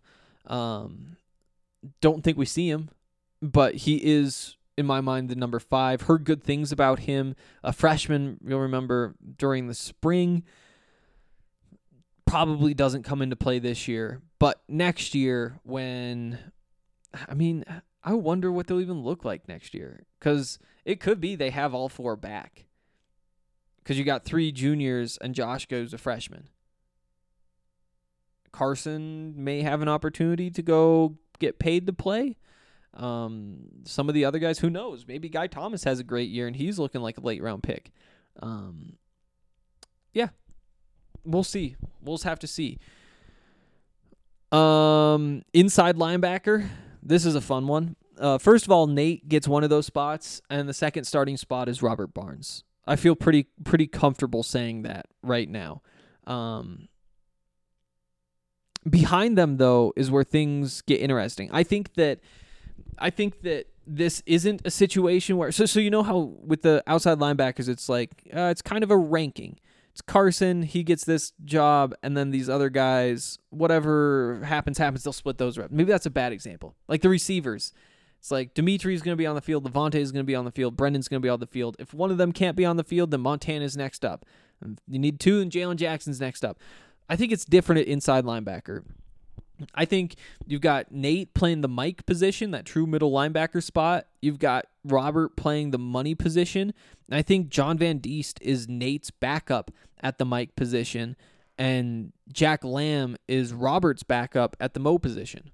Don't think we see him, but he is, in my mind, the number 5. Heard good things about him. A freshman, you'll remember, during the spring. Probably doesn't come into play this year. But next year, I wonder what they'll even look like next year. Because it could be they have all 4 back. Because you got 3 juniors and Josh goes a freshman. Carson may have an opportunity to go get paid to play. Some of the other guys, who knows? Maybe Guy Thomas has a great year and he's looking like a late round pick. Yeah, we'll see. We'll just have to see. Inside linebacker, this is a fun one. First of all, Nate gets one of those spots, and the second starting spot is Robert Barnes. I feel pretty comfortable saying that right now. Behind them, though, is where things get interesting. I think that this isn't a situation where so you know how with the outside linebackers it's like it's kind of a ranking. It's Carson, he gets this job, and then these other guys, whatever happens, they'll split those reps. Maybe that's a bad example. Like the receivers. It's like Dimitri's going to be on the field, Levante is going to be on the field, Brendan's going to be on the field. If one of them can't be on the field, then Montana's next up. You need two, and Jalen Jackson's next up. I think it's different at inside linebacker. I think you've got Nate playing the Mike position, that true middle linebacker spot. You've got Robert playing the money position. And I think John Van Diest is Nate's backup at the Mike position, and Jack Lamb is Robert's backup at the Mo position.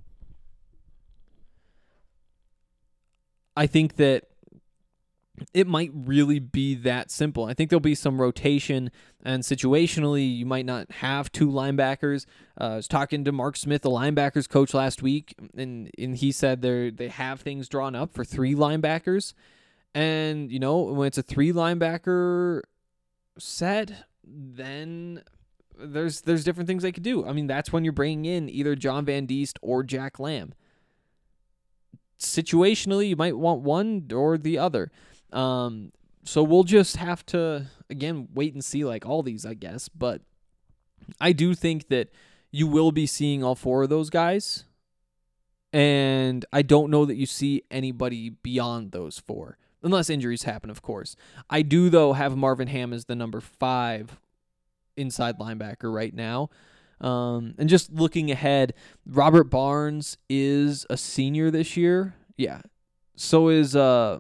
I think that it might really be that simple. I think there'll be some rotation, and situationally, you might not have two linebackers. I was talking to Mark Smith, the linebackers coach, last week, and he said they have things drawn up for three linebackers. And, you know, when it's a three linebacker set, then there's different things they could do. I mean, that's when you're bringing in either John Van Diest or Jack Lamb. Situationally, you might want one or the other. So we'll just have to, again, wait and see like all these, I guess. But I do think that you will be seeing all four of those guys. And I don't know that you see anybody beyond those four. Unless injuries happen, of course. I do, though, have Marvin Ham as the number 5 inside linebacker right now. And just looking ahead, Robert Barnes is a senior this year. Yeah. So is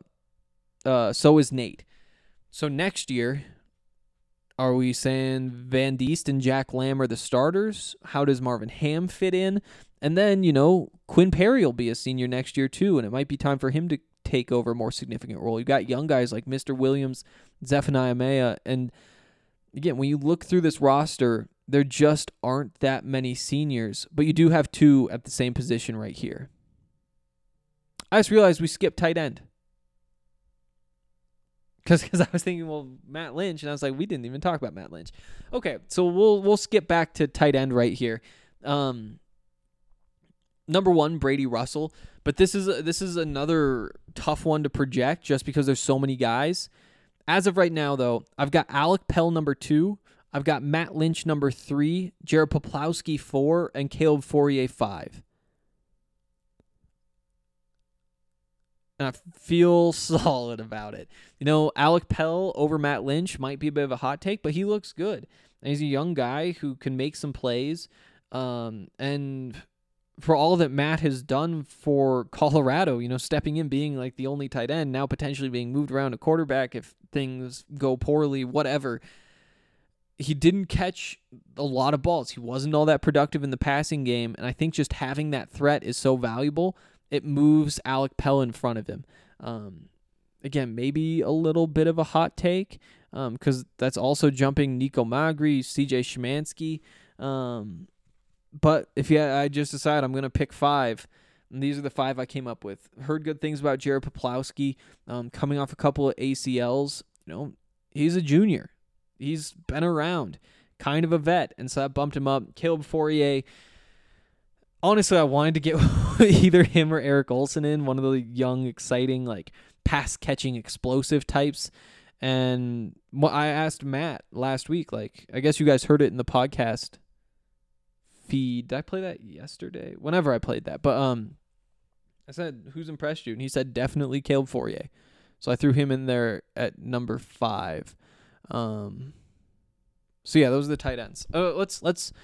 Nate. So next year, are we saying Van Diest and Jack Lamb are the starters? How does Marvin Ham fit in? And then, you know, Quinn Perry will be a senior next year too, and it might be time for him to take over a more significant role. You've got young guys like Mr. Williams, Zephaniah Maya, and again, when you look through this roster, there just aren't that many seniors, but you do have two at the same position right here. I just realized we skipped tight end. Because I was thinking, well, Matt Lynch, and I was like, we didn't even talk about Matt Lynch. Okay, so we'll skip back to tight end right here. Number 1, Brady Russell, but this is another tough one to project just because there's so many guys. As of right now, though, I've got Alec Pell number 2, I've got Matt Lynch number 3, Jared Poplowski 4, and Caleb Fourier 5. And I feel solid about it. You know, Alec Pell over Matt Lynch might be a bit of a hot take, but he looks good. And he's a young guy who can make some plays. And for all that Matt has done for Colorado, you know, stepping in, being like the only tight end, now potentially being moved around to quarterback if things go poorly, whatever. He didn't catch a lot of balls. He wasn't all that productive in the passing game. And I think just having that threat is so valuable. It moves Alec Pell in front of him. Again, maybe a little bit of a hot take because that's also jumping Nico Magri, CJ Szymanski. But if I just decide I'm going to pick 5, and these are the 5 I came up with. Heard good things about Jared Poplowski coming off a couple of ACLs. You know, he's a junior. He's been around, kind of a vet, and so that bumped him up. Caleb Fourier. Honestly, I wanted to get either him or Eric Olson in, one of the young, exciting, like pass-catching, explosive types. And I asked Matt last week, like, I guess you guys heard it in the podcast feed. Did I play that yesterday? Whenever I played that. But I said, who's impressed you? And he said, definitely Caleb Fourier. So I threw him in there at number 5. So yeah, those are the tight ends. Let's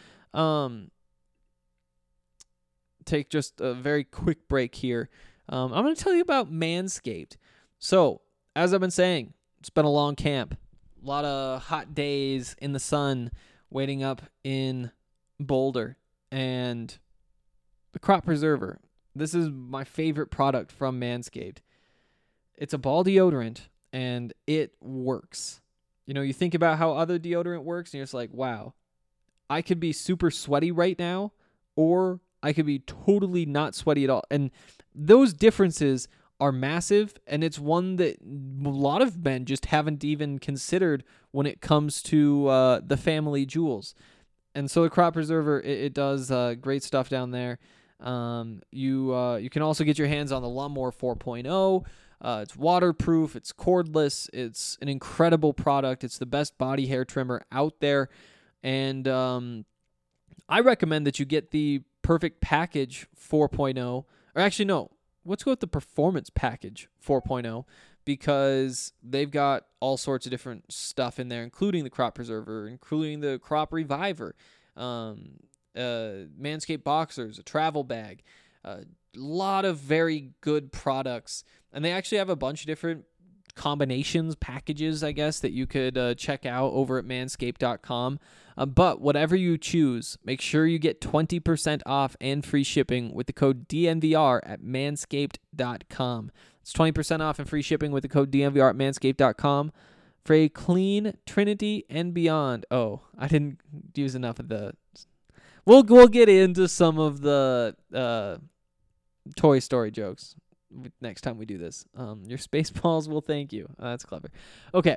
take just a very quick break here. I'm going to tell you about Manscaped. So, as I've been saying, it's been a long camp. A lot of hot days in the sun waiting up in Boulder. And the Crop Preserver. This is my favorite product from Manscaped. It's a ball deodorant, and it works. You know, you think about how other deodorant works, and you're just like, wow, I could be super sweaty right now, or I could be totally not sweaty at all. And those differences are massive, and it's one that a lot of men just haven't even considered when it comes to the family jewels. And so the Crop Preserver, it does great stuff down there. You can also get your hands on the Lawnmower 4.0. It's waterproof. It's cordless. It's an incredible product. It's the best body hair trimmer out there. And I recommend that you get the Perfect Package 4.0. Or actually, no. Let's go with the Performance Package 4.0 because they've got all sorts of different stuff in there, including the Crop Preserver, including the Crop Reviver, Manscaped Boxers, a travel bag, a lot of very good products. And they actually have a bunch of different combinations, packages, I guess, that you could check out over at manscaped.com. But whatever you choose, make sure you get 20% off and free shipping with the code DNVR at manscaped.com. It's 20% off and free shipping with the code DNVR at manscaped.com for a clean Trinity and beyond. Oh, I didn't use enough of the... We'll get into some of the Toy Story jokes next time we do this. Your Spaceballs will thank you. That's clever. Okay.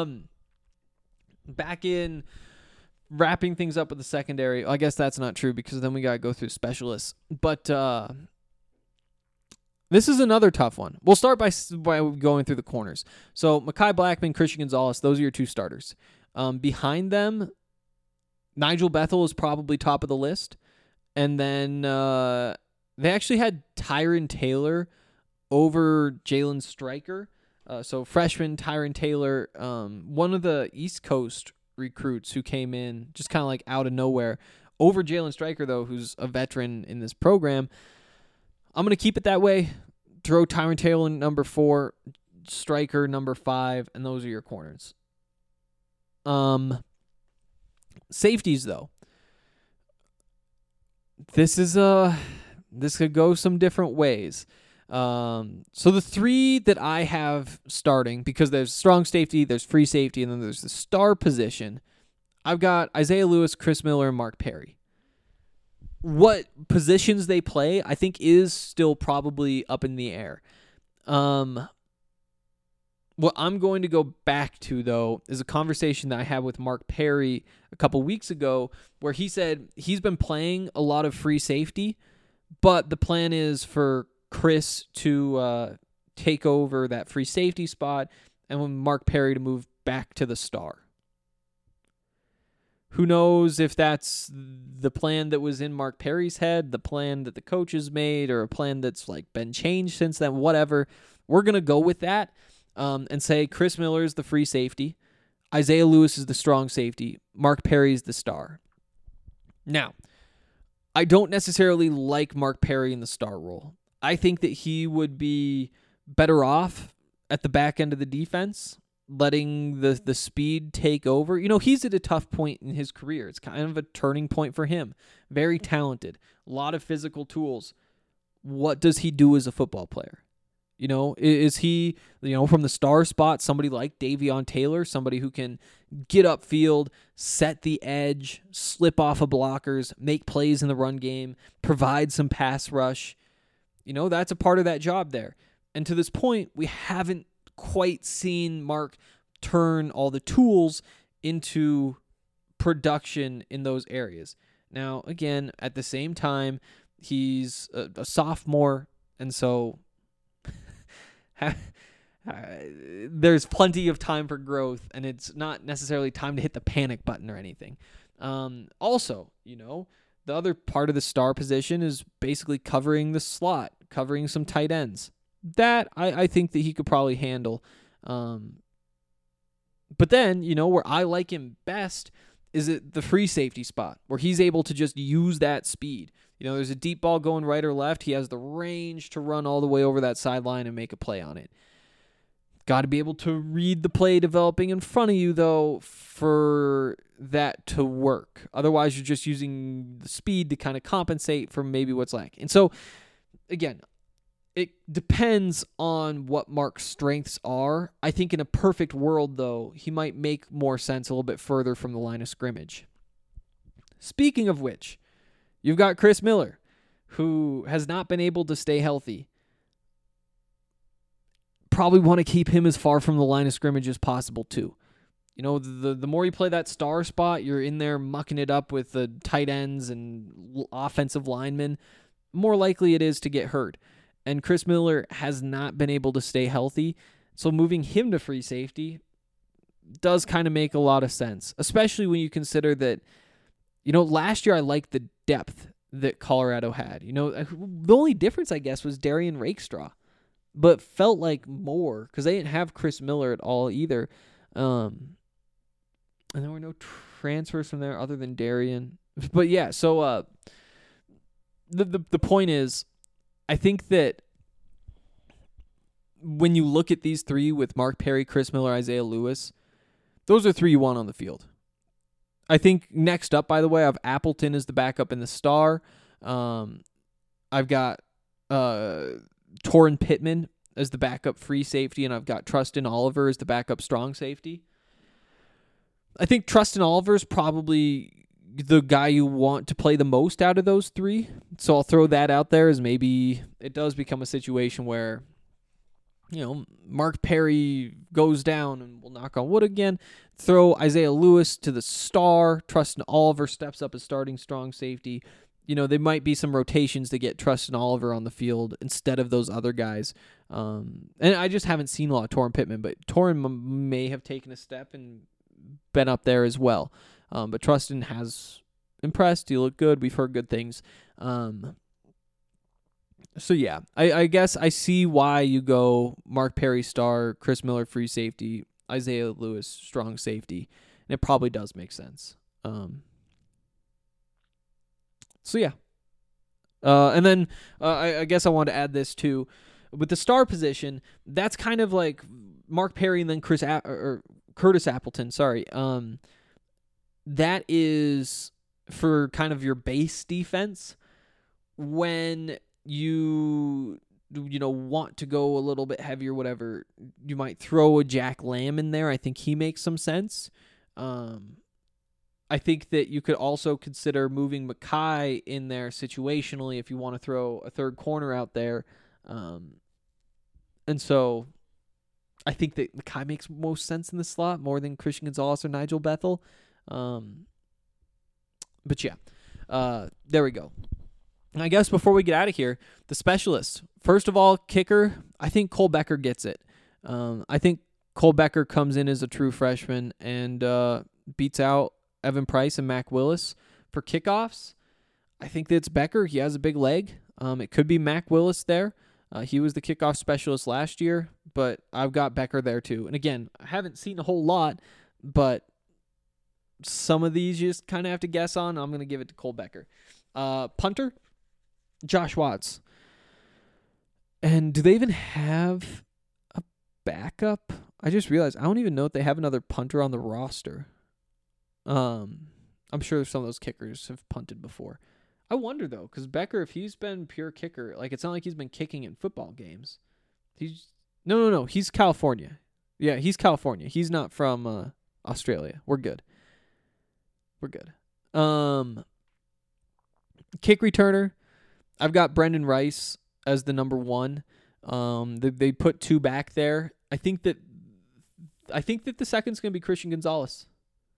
Back in wrapping things up with the secondary. I guess that's not true because then we got to go through specialists. But this is another tough one. We'll start by going through the corners. So Mekhi Blackman, Christian Gonzalez, those are your two starters. Behind them, Nigel Bethel is probably top of the list. And then they actually had Tyron Taylor over Jalen Stryker. So freshman Tyron Taylor, one of the East Coast recruits who came in just kind of like out of nowhere over Jalen Stryker, though, who's a veteran in this program. I'm going to keep it that way. Throw Tyron Taylor in number 4, Stryker number 5, and those are your corners. Safeties, though. This could go some different ways. So the 3 that I have starting, because there's strong safety, there's free safety, and then there's the star position, I've got Isaiah Lewis, Chris Miller, and Mark Perry. What positions they play, I think, is still probably up in the air. What I'm going to go back to, though, is a conversation that I had with Mark Perry a couple weeks ago where he said he's been playing a lot of free safety, but the plan is for Chris to take over that free safety spot and when Mark Perry to move back to the star. Who knows if that's the plan that was in Mark Perry's head, the plan that the coaches made, or a plan that's like been changed since then, whatever. We're going to go with that. And say Chris Miller is the free safety, Isaiah Lewis is the strong safety, Mark Perry is the star. Now, I don't necessarily like Mark Perry in the star role. I think that he would be better off at the back end of the defense, letting the speed take over. You know, he's at a tough point in his career. It's kind of a turning point for him. Very talented, a lot of physical tools. What does he do as a football player? You know, is he, from the star spot, somebody like Davion Taylor, somebody who can get upfield, set the edge, slip off of blockers, make plays in the run game, provide some pass rush? That's a part of that job there. And to this point, we haven't quite seen Mark turn all the tools into production in those areas. Now, again, at the same time, he's a sophomore, and so... there's plenty of time for growth, and it's not necessarily time to hit the panic button or anything. Also, the other part of the star position is basically covering the slot, covering some tight ends. That I think that he could probably handle. But then, where I like him best is at the free safety spot, where he's able to just use that speed. There's a deep ball going right or left. He has the range to run all the way over that sideline and make a play on it. Got to be able to read the play developing in front of you, though, for that to work. Otherwise, you're just using the speed to kind of compensate for maybe what's lacking. And so, again, it depends on what Mark's strengths are. I think in a perfect world, though, he might make more sense a little bit further from the line of scrimmage. Speaking of which, you've got Chris Miller, who has not been able to stay healthy. Probably want to keep him as far from the line of scrimmage as possible, too. The more you play that star spot, you're in there mucking it up with the tight ends and offensive linemen, more likely it is to get hurt. And Chris Miller has not been able to stay healthy, so moving him to free safety does kind of make a lot of sense, especially when you consider that, last year I liked the depth that Colorado had. The only difference, I guess, was Darian Rakestraw, but felt like more because they didn't have Chris Miller at all either. And there were no transfers from there other than Darian. But yeah, so the point is, I think that when you look at these three with Mark Perry, Chris Miller, Isaiah Lewis, those are three you want on the field. I think next up, by the way, I have Appleton as the backup in the star. I've got Torrin Pittman as the backup free safety, and I've got Trustin Oliver as the backup strong safety. I think Trustin Oliver is probably the guy you want to play the most out of those three. So I'll throw that out there as maybe it does become a situation where, Mark Perry goes down, and we'll knock on wood again. Throw Isaiah Lewis to the star. Trustin Oliver steps up as starting strong safety. There might be some rotations to get Trustin Oliver on the field instead of those other guys. And I just haven't seen a lot of Torrin Pittman, but Torrin may have taken a step and been up there as well. But Trustin has impressed. He looked good. We've heard good things. So yeah, I guess I see why you go Mark Perry star, Chris Miller free safety, Isaiah Lewis strong safety, and it probably does make sense. So yeah, and then I guess I want to add this too, with the star position. That's kind of like Mark Perry and then Curtis Appleton. Sorry, that is for kind of your base defense when you want to go a little bit heavier, whatever. You might throw a Jack Lamb in there. I think he makes some sense. I think that you could also consider moving Mackay in there situationally if you want to throw a third corner out there. And so I think that Mackay makes most sense in the slot more than Christian Gonzalez or Nigel Bethel. But yeah, there we go. I guess before we get out of here, the specialists. First of all, kicker, I think Cole Becker gets it. I think Cole Becker comes in as a true freshman and beats out Evan Price and Mac Willis for kickoffs. I think that's Becker. He has a big leg. It could be Mac Willis there. He was the kickoff specialist last year, but I've got Becker there too. And again, I haven't seen a whole lot, but some of these you just kind of have to guess on. I'm going to give it to Cole Becker. Punter, Josh Watts. And do they even have a backup? I just realized I don't even know if they have another punter on the roster. I'm sure some of those kickers have punted before. I wonder though, because Becker, if he's been pure kicker, like it's not like he's been kicking in football games. No. He's California. Yeah, he's California. He's not from Australia. We're good. Kick returner, I've got Brendan Rice as the number one. They put two back there. I think that the second's going to be Christian Gonzalez.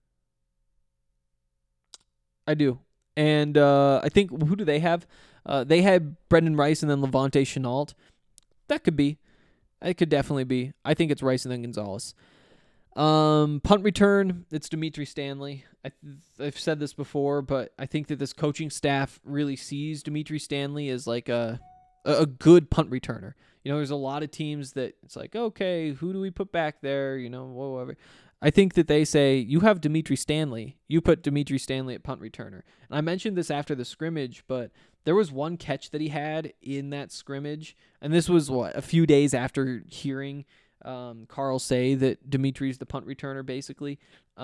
I do. And I think, who do they have? They had Brendan Rice and then Levante Chenault. That could be. It could definitely be. I think it's Rice and then Gonzalez. Punt return, it's Dimitri Stanley. I've said this before, but I think that this coaching staff really sees Dimitri Stanley as like a good punt returner. There's a lot of teams that it's like, okay, who do we put back there? Whatever. I think that they say, you have Dimitri Stanley. You put Dimitri Stanley at punt returner. And I mentioned this after the scrimmage, but there was one catch that he had in that scrimmage. And this was, a few days after hearing Carl say that Dimitri's the punt returner, basically.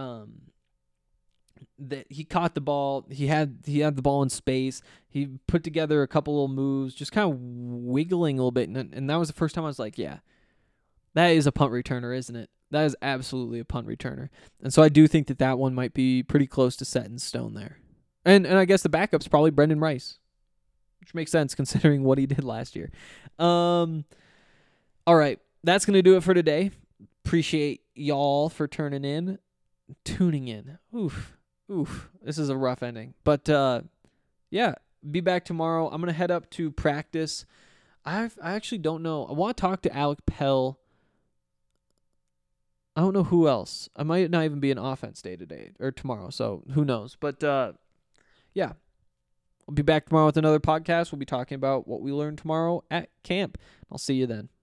That he caught the ball. He had the ball in space. He put together a couple little moves, just kind of wiggling a little bit. And that was the first time I was like, yeah, that is a punt returner, isn't it? That is absolutely a punt returner. And so I do think that one might be pretty close to set in stone there. And I guess the backup's probably Brendan Rice, which makes sense considering what he did last year. All right, that's going to do it for today. Appreciate y'all for turning in. tuning in. Oof. This is a rough ending. But, yeah, be back tomorrow. I'm going to head up to practice. I actually don't know. I want to talk to Alec Pell. I don't know who else. I might not even be an offense day today or tomorrow, so who knows. But, yeah, I'll be back tomorrow with another podcast. We'll be talking about what we learned tomorrow at camp. I'll see you then.